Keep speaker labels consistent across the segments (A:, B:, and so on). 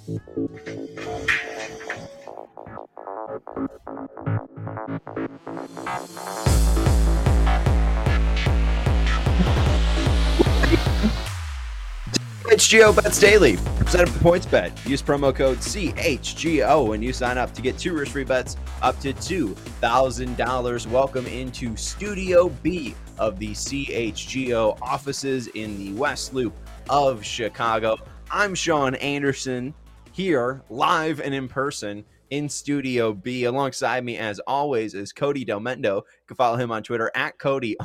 A: CHGO Bets Daily, presented by PointsBet. Use promo code CHGO when you sign up to get 2 risk-free bets up to $2,000. Welcome into Studio B of the CHGO offices in the West Loop of Chicago. I'm Sean Anderson, here live and in person in Studio B. Alongside me, as always, is Cody Del Mendo. You can follow him on Twitter at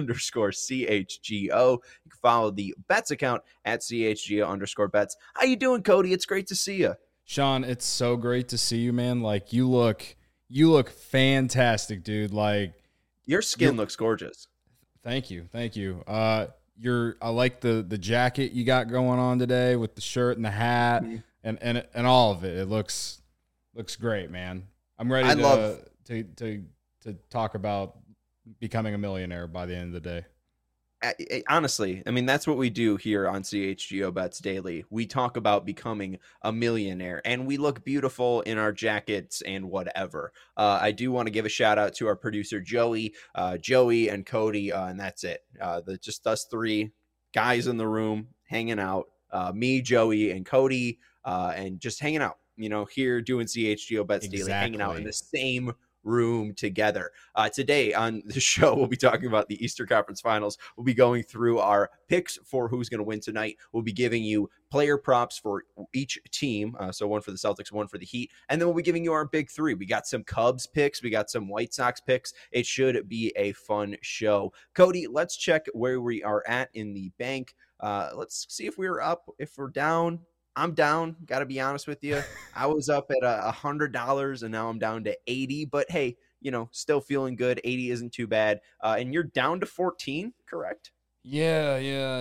A: Cody_CHGO. You can follow the Bets account at CHGO_Bets. How you doing, Cody? It's great to see you.
B: Sean, it's so great to see you, man. Like, you look fantastic, dude. Like,
A: your skin looks gorgeous.
B: Thank you. I like the jacket you got going on today with the shirt and the hat and all of it. It looks great, man. I'm ready to talk about becoming a millionaire by the end of the day.
A: Honestly, I mean, that's what we do here on CHGO Bets Daily. We talk about becoming a millionaire, and we look beautiful in our jackets and whatever. I do want to give a shout out to our producer, Joey and Cody, and that's it. Just us three guys in the room hanging out, me, Joey, and Cody, and just hanging out, here doing CHGO Bets Daily, hanging out in the same room together. Today on the show, we'll be talking about the Eastern Conference Finals. We'll be going through our picks for who's going to win tonight. We'll be giving you player props for each team. So one for the Celtics, one for the Heat. And then we'll be giving you our big three. We got some Cubs picks. We got some White Sox picks. It should be a fun show. Cody, let's check where we are at in the bank. Let's see if we're up, if we're down. I'm down. Got to be honest with you. I was up at $100 and now I'm down to 80. But hey, still feeling good. 80 isn't too bad. And you're down to 14, correct?
B: Yeah.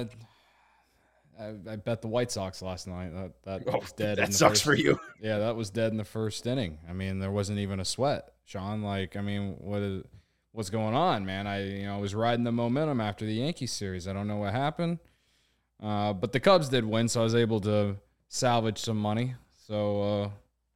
B: I bet the White Sox last night. That was dead.
A: That sucks for you.
B: Yeah, that was dead in the first inning. I mean, there wasn't even a sweat, Sean. What's going on, man? I was riding the momentum after the Yankees series. I don't know what happened, but the Cubs did win, so I was able to salvage some money. So,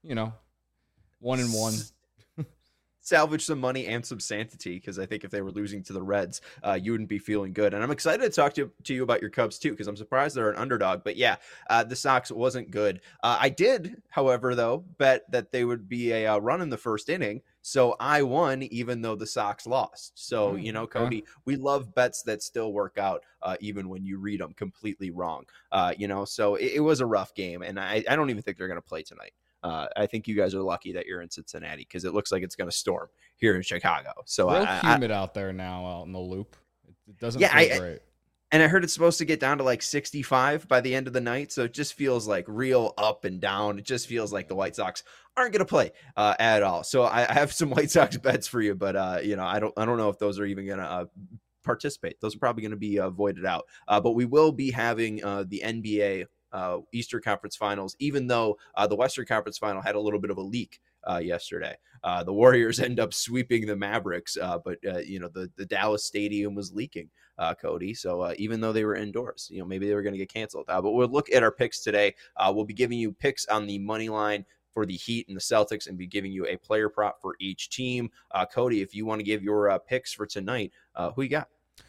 B: 1-1.
A: Salvage some money and some sanity, because I think if they were losing to the Reds, you wouldn't be feeling good. And I'm excited to talk to you about your Cubs too, because I'm surprised they're an underdog. But yeah, the Sox wasn't good. I did, however, though, bet that they would be a run in the first inning. So I won, even though the Sox lost. So, Cody, we love bets that still work out, even when you read them completely wrong. So it was a rough game, and I don't even think they're going to play tonight. I think you guys are lucky that you're in Cincinnati, because it looks like it's going to storm here in Chicago. So
B: real humid out there now, out in the loop. It doesn't feel great.
A: And I heard it's supposed to get down to like 65 by the end of the night. So it just feels like real up and down. It just feels like the White Sox aren't going to play at all. So I have some White Sox bets for you, but I don't know if those are even going to participate. Those are probably going to be voided out. But we will be having the NBA Eastern Conference Finals, even though the Western Conference Final had a little bit of a leak yesterday. The Warriors end up sweeping the Mavericks, but the Dallas Stadium was leaking, Cody. So even though they were indoors, maybe they were going to get canceled. But we'll look at our picks today. We'll be giving you picks on the money line for the Heat and the Celtics, and be giving you a player prop for each team. Cody, if you want to give your picks for tonight, who you got?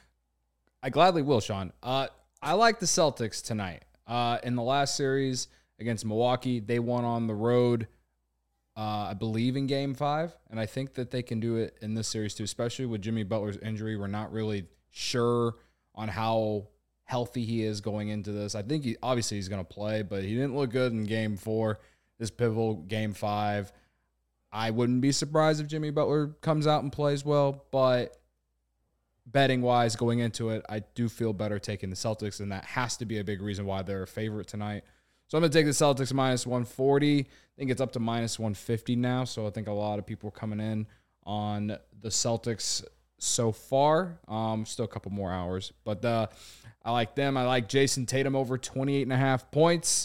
B: I gladly will, Sean. I like the Celtics tonight. In the last series against Milwaukee, they won on the road, I believe, in Game 5. And I think that they can do it in this series too, especially with Jimmy Butler's injury. We're not really sure on how healthy he is going into this. I think obviously he's going to play, but he didn't look good in Game 4, this pivotal Game 5. I wouldn't be surprised if Jimmy Butler comes out and plays well, but betting-wise, going into it, I do feel better taking the Celtics, and that has to be a big reason why they're a favorite tonight. So I'm going to take the Celtics minus 140. I think it's up to minus 150 now, so I think a lot of people are coming in on the Celtics so far. Still a couple more hours, but I like them. I like Jason Tatum over 28.5 points.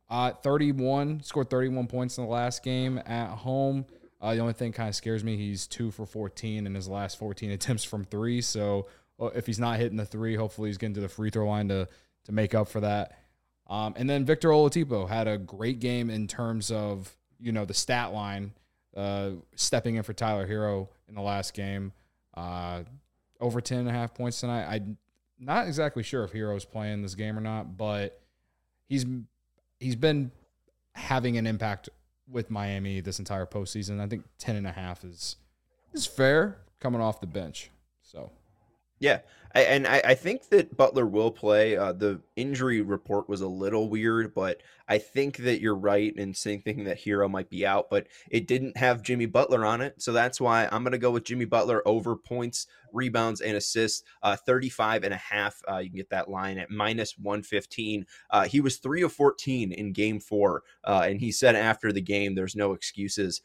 B: Scored 31 points in the last game at home. The only thing kind of scares me, he's 2 for 14 in his last 14 attempts from 3. So if he's not hitting the 3, hopefully he's getting to the free throw line to make up for that. And then Victor Oladipo had a great game in terms of, the stat line, stepping in for Tyler Hero in the last game. Over 10.5 points tonight. I'm not exactly sure if Hero's playing this game or not, but he's been having an impact with Miami this entire postseason. I think 10.5 is fair coming off the bench. So,
A: yeah. I think that Butler will play. The injury report was a little weird, but I think that you're right in thinking that Hero might be out, but it didn't have Jimmy Butler on it. So that's why I'm going to go with Jimmy Butler over points, rebounds, and assists, 35.5. You can get that line at -115. He was 3 of 14 in game 4. And he said after the game, there's no excuses.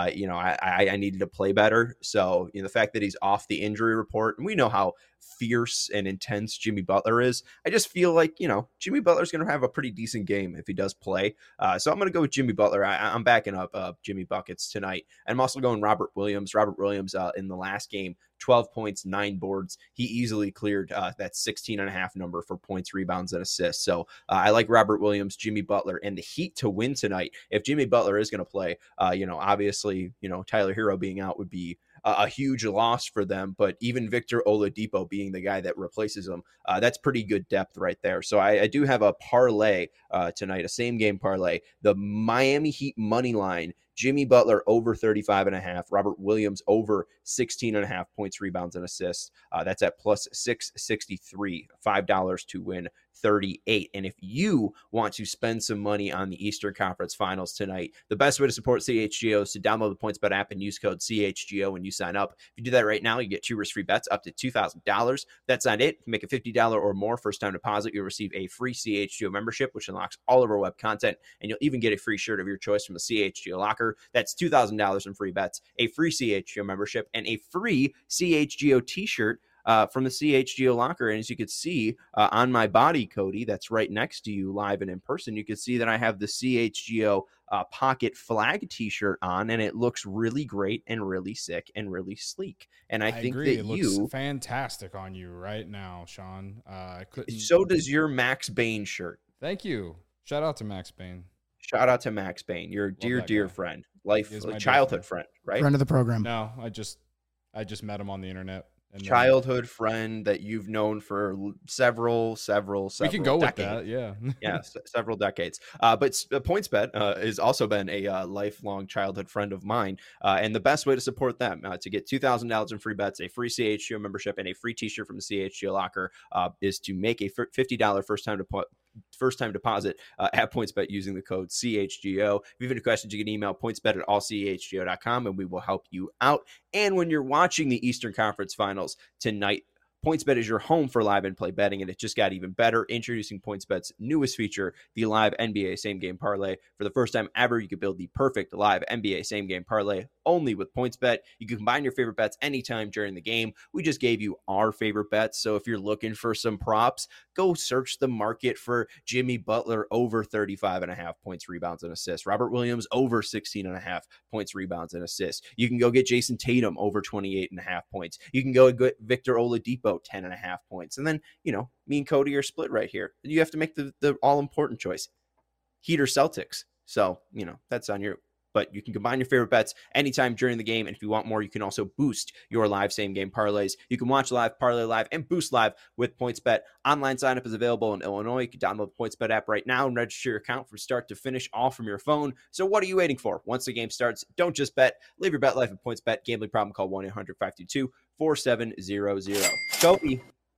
A: I needed to play better. So, the fact that he's off the injury report, and we know how fierce and intense Jimmy Butler is. I just feel like, Jimmy Butler's going to have a pretty decent game if he does play. So I'm going to go with Jimmy Butler. I'm backing up Jimmy Buckets tonight. And I'm also going Robert Williams. Robert Williams in the last game, 12 points, 9 boards. He easily cleared that 16.5 number for points, rebounds, and assists. So I like Robert Williams, Jimmy Butler, and the Heat to win tonight. If Jimmy Butler is going to play, obviously, Tyler Hero being out would be a huge loss for them, but even Victor Oladipo being the guy that replaces him, that's pretty good depth right there. So I do have a parlay tonight, a same game parlay. The Miami Heat money line, Jimmy Butler over 35.5, Robert Williams over 16.5 points, rebounds, and assists. That's at plus 663, $5 to win 38. And if you want to spend some money on the Eastern Conference Finals tonight, the best way to support CHGO is to download the PointsBet app and use code CHGO when you sign up. If you do that right now, you get 2 risk-free bets up to $2,000. That's not it. If you make a $50 or more first-time deposit, you'll receive a free CHGO membership, which unlocks all of our web content, and you'll even get a free shirt of your choice from the CHGO locker. That's $2,000 in free bets, a free CHGO membership, and a free CHGO t-shirt from the CHGO locker. And as you can see on my body, Cody, that's right next to you live and in person, you can see that I have the CHGO pocket flag t-shirt on, and it looks really great and really sick and really sleek. And I think
B: agree.
A: that
B: it looks fantastic on you right now, Sean.
A: So does your Max Bain shirt.
B: Thank you. Shout out to Max Bain.
A: Shout out to Max Bain, your dear friend, childhood friend, right?
C: Friend of the program.
B: No, I just met him on the internet.
A: Childhood friend that you've known for several
B: we can go
A: decades.
B: With that, yeah.
A: Several decades. But PointsBet has also been a lifelong childhood friend of mine, and the best way to support them to get $2,000 in free bets, a free CHGO membership, and a free t-shirt from the CHGO locker is to make a $50 first-time deposit at PointsBet using the code CHGO. If you have any questions, you can email pointsbet@allchgo.com and we will help you out. And when you're watching the Eastern Conference Finals tonight, PointsBet is your home for live and play betting, and it just got even better. Introducing PointsBet's newest feature, the live NBA same game parlay. For the first time ever, you can build the perfect live NBA same game parlay only with PointsBet. You can combine your favorite bets anytime during the game. We just gave you our favorite bets, so if you're looking for some props, go search the market for Jimmy Butler over 35.5 points, rebounds, and assists. Robert Williams over 16.5 points, rebounds, and assists. You can go get Jason Tatum over 28.5 points. You can go get Victor Oladipo 10.5 points. And then, me and Cody are split right here. You have to make the all-important choice. Heat or Celtics. So, that's on you. But you can combine your favorite bets anytime during the game. And if you want more, you can also boost your live same-game parlays. You can watch live, parlay live, and boost live with PointsBet. Online sign-up is available in Illinois. You can download the PointsBet app right now and register your account from start to finish, all from your phone. So what are you waiting for? Once the game starts, don't just bet. Live your bet life at PointsBet. Gambling problem, call 1-800-522-4700. Kobe.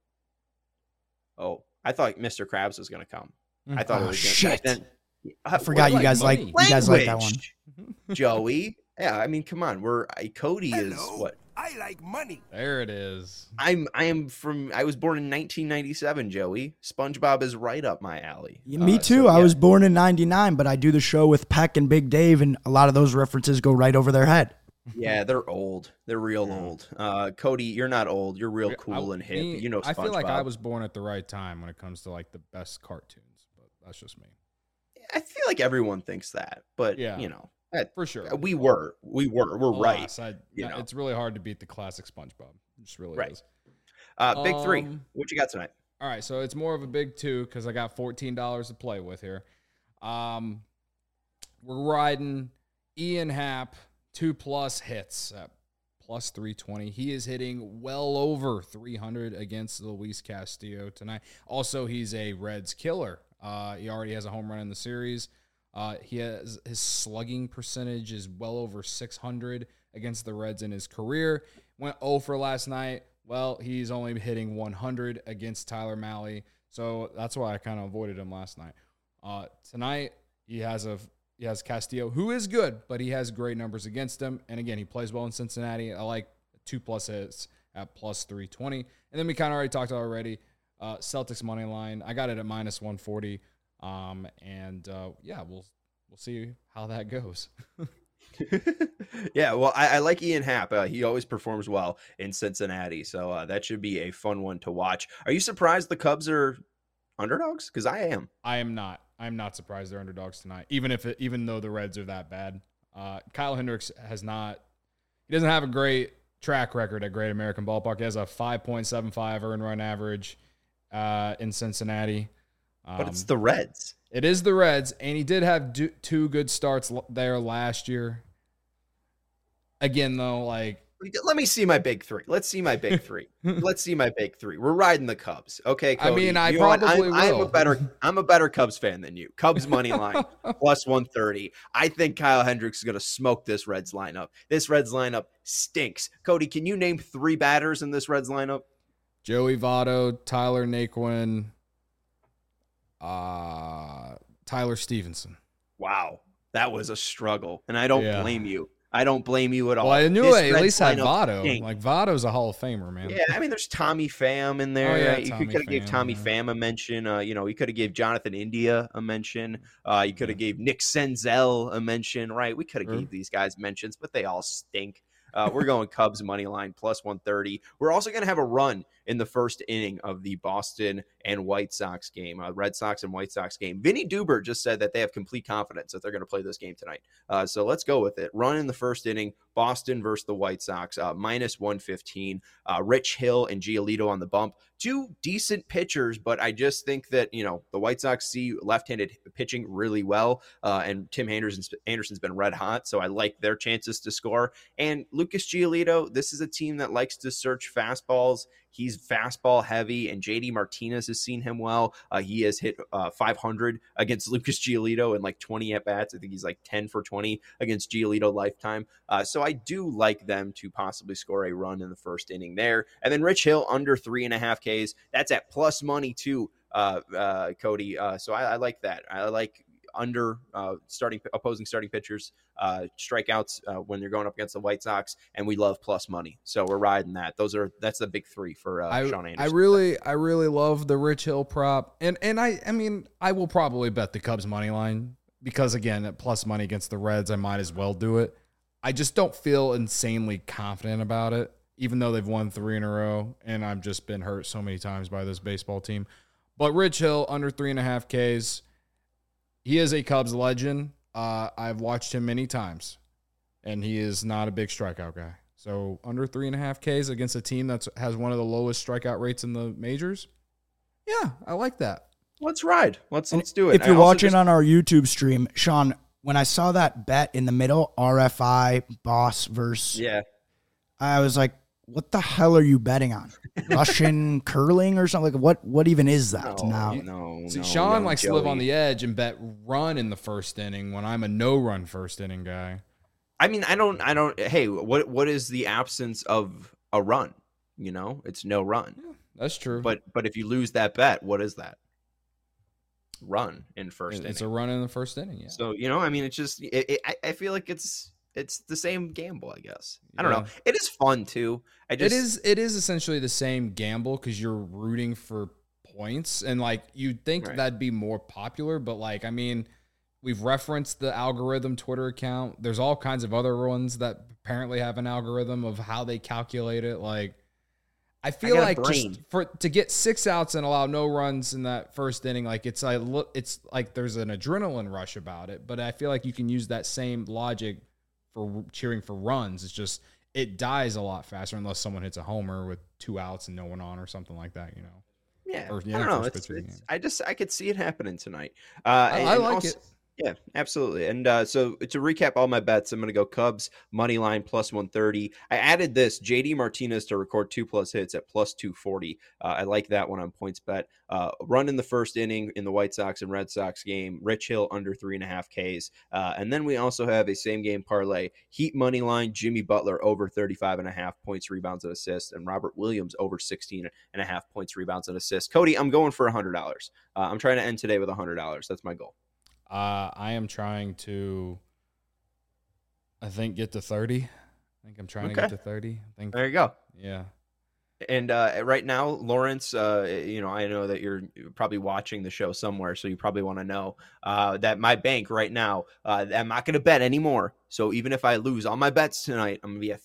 A: Oh, I thought Mr. Krabs was going to come. I thought it was going to come.
C: I forgot you guys like that one.
A: Joey. Yeah, I mean, come on. Cody is what?
D: I like money.
B: There it is.
A: I was born in 1997, Joey. SpongeBob is right up my alley.
C: Me too. So, I was born in 99, but I do the show with Peck and Big Dave, and a lot of those references go right over their head.
A: Yeah, they're old. They're real old. Cody, you're not old. You're real cool and hip. SpongeBob.
B: I feel like I was born at the right time when it comes to like the best cartoons, but that's just me.
A: I feel like everyone thinks that, but
B: for sure.
A: We're right.
B: It's really hard to beat the classic SpongeBob. It just really is.
A: Big three. What you got tonight?
B: All right, so it's more of a big 2 because I got $14 to play with here. We're riding Ian Happ 2+ hits at plus 320. He is hitting well over 300 against Luis Castillo tonight. Also, he's a Reds killer. He already has a home run in the series. His slugging percentage is well over 600 against the Reds in his career. Went 0 for last night. Well, he's only hitting 100 against Tyler Mahle, so that's why I kind of avoided him last night. Tonight, he has Castillo, who is good, but he has great numbers against him. And again, he plays well in Cincinnati. I like 2+ hits at plus 320. And then we kind of already talked about already. Celtics money line. I got it at minus 140. We'll see how that goes.
A: Yeah, well, I like Ian Happ. He always performs well in Cincinnati, so that should be a fun one to watch. Are you surprised the Cubs are underdogs? Because I am.
B: I am not. I'm not surprised they're underdogs tonight, even though the Reds are that bad. Kyle Hendricks he doesn't have a great track record at Great American Ballpark. He has a 5.75 earned run average in Cincinnati.
A: But it's the Reds.
B: It is the Reds, and he did have 2 good starts there last year. Again, though,
A: let me see my big 3. Let's see my big 3. Let's see my big 3. We're riding the Cubs, okay, Cody?
B: I mean, I probably will.
A: I'm a better Cubs fan than you. Cubs money line plus 130. I think Kyle Hendricks is going to smoke this Reds lineup. This Reds lineup stinks. Cody, can you name 3 batters in this Reds lineup?
B: Joey Votto, Tyler Naquin, Tyler Stevenson.
A: Wow, that was a struggle, and I don't blame you. I don't blame you at all.
B: Well, I knew I at least had Votto. Votto's a Hall of Famer, man.
A: Yeah, I mean, there's Tommy Pham in there.
B: Oh, yeah,
A: you could have gave Tommy Pham a mention. You could have gave Jonathan India a mention. You could have gave Nick Senzel a mention, right? We could have gave these guys mentions, but they all stink. We're going Cubs money line plus 130. We're also going to have a run in the first inning of the Boston and White Sox game, Red Sox and White Sox game. Vinny Duber just said that they have complete confidence that they're going to play this game tonight. So let's go with it. Run in the first inning, Boston versus the White Sox, minus 115. Rich Hill and Giolito on the bump. 2 decent pitchers, but I just think that, the White Sox see left-handed pitching really well, and Tim Anderson's been red hot, so I like their chances to score. And Lucas Giolito, this is a team that likes to search fastballs. He's fastball heavy, and JD Martinez has seen him well. He has hit 500 against Lucas Giolito in 20 at-bats. I think he's 10 for 20 against Giolito lifetime. So I do like them to possibly score a run in the first inning there. And then Rich Hill under 3.5 Ks. That's at plus money too, Cody. So I like that. I like under opposing starting pitchers, strikeouts when you're going up against the White Sox, and we love plus money. So we're riding that. That's the big 3 for Sean Anderson.
B: I really love the Rich Hill prop, and I mean I will probably bet the Cubs money line because again at plus money against the Reds, I might as well do it. I just don't feel insanely confident about it, even though they've won 3 in a row, and I've just been hurt so many times by this baseball team. But Rich Hill under 3.5 Ks. He is a Cubs legend. I've watched him many times, and he is not a big strikeout guy. So under 3.5 Ks against a team that has one of the lowest strikeout rates in the majors, yeah, I like that.
A: Let's ride. Let's do it.
C: If you're watching on our YouTube stream, Sean, when I saw that bet in the middle, RFI, Boss versus, I was like, what the hell are you betting on? Russian curling or something? What even is that?
B: See, Sean likes to live on the edge and bet run in the first inning when I'm a no-run first inning guy.
A: I mean, I don't. Hey, what is the absence of a run? It's no run.
B: Yeah, that's true.
A: But if you lose that bet, what is that? Run in first inning.
B: It's a run in the first inning. Yeah.
A: So I mean, it's just I feel like it's the same gamble, I guess. I don't know. It is fun too. It is
B: essentially the same gamble because you're rooting for points, and you'd think that'd be more popular, but I mean, we've referenced the algorithm Twitter account. There's all kinds of other ones that apparently have an algorithm of how they calculate it. I feel like just to get 6 outs and allow no runs in that first inning, it's like there's an adrenaline rush about it, but I feel like you can use that same logic for cheering for runs. It's just it dies a lot faster unless someone hits a homer with 2 outs and no one on or something like that.
A: Yeah,
B: Or,
A: I don't know. I could see it happening tonight.
B: I like it.
A: Yeah, absolutely. And so to recap all my bets, I'm going to go Cubs money line plus 130. I added this JD Martinez to record 2+ hits at plus 240. I like that one on PointsBet. Run in the first inning in the White Sox and Red Sox game. Rich Hill under 3.5 Ks. And then we also have a same game parlay. Heat money line. Jimmy Butler over 35.5 points, rebounds, and assists, and Robert Williams over 16.5 points, rebounds, and assists. Cody, I'm going for $100. I'm trying to end today with $100. That's my goal.
B: I am trying to, I think, get to 30. I think I'm trying to get to 30.
A: There you go.
B: Yeah.
A: And right now, Lawrence, I know that you're probably watching the show somewhere, so you probably want to know that my bank right now, I'm not going to bet anymore. So even if I lose all my bets tonight, I'm going to be at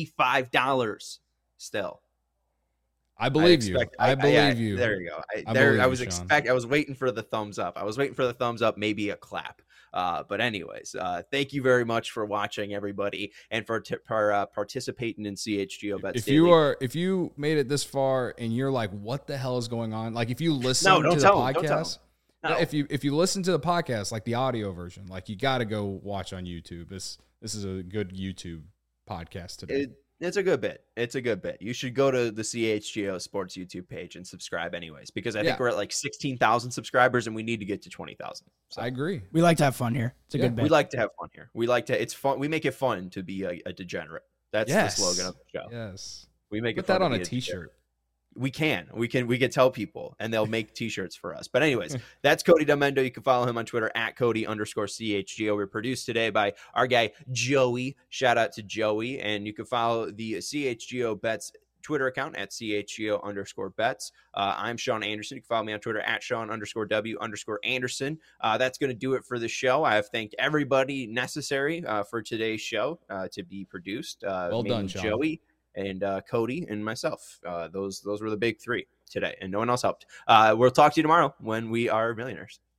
A: $55 still.
B: I believe you. I believe you.
A: There you go. I was waiting for the thumbs up. I was waiting for the thumbs up, maybe a clap. But anyways, thank you very much for watching, everybody, and for participating in CHGO Bets Daily.
B: If you made it this far and you're like, what the hell is going on? Like, if you listen to the podcast, if you listen to the podcast, like the audio version, like you got to go watch on YouTube. This is a good YouTube podcast today.
A: It's a good bit. You should go to the CHGO Sports YouTube page and subscribe anyways, because I think we're at like 16,000 subscribers and we need to get to 20,000. So
B: I agree.
C: We like to have fun here. It's a good bit.
A: We like to have fun here. It's fun. We make it fun to be a degenerate. That's the slogan of the show.
B: Yes.
A: We make
B: Put
A: it fun
B: that on
A: to
B: a
A: be
B: t-shirt.
A: We can tell people and they'll make t-shirts for us. But anyways, that's Cody Delmendo. You can follow him on Twitter at Cody_CHGO. We're produced today by our guy, Joey. Shout out to Joey. And you can follow the CHGO Bets Twitter account at CHGO_bets. I'm Sean Anderson. You can follow me on Twitter at Sean_W_Anderson. That's going to do it for the show. I have thanked everybody necessary for today's show to be produced.
B: Well done, Sean.
A: Joey and Cody and myself. Those were the big three today, and no one else helped. We'll talk to you tomorrow when we are millionaires.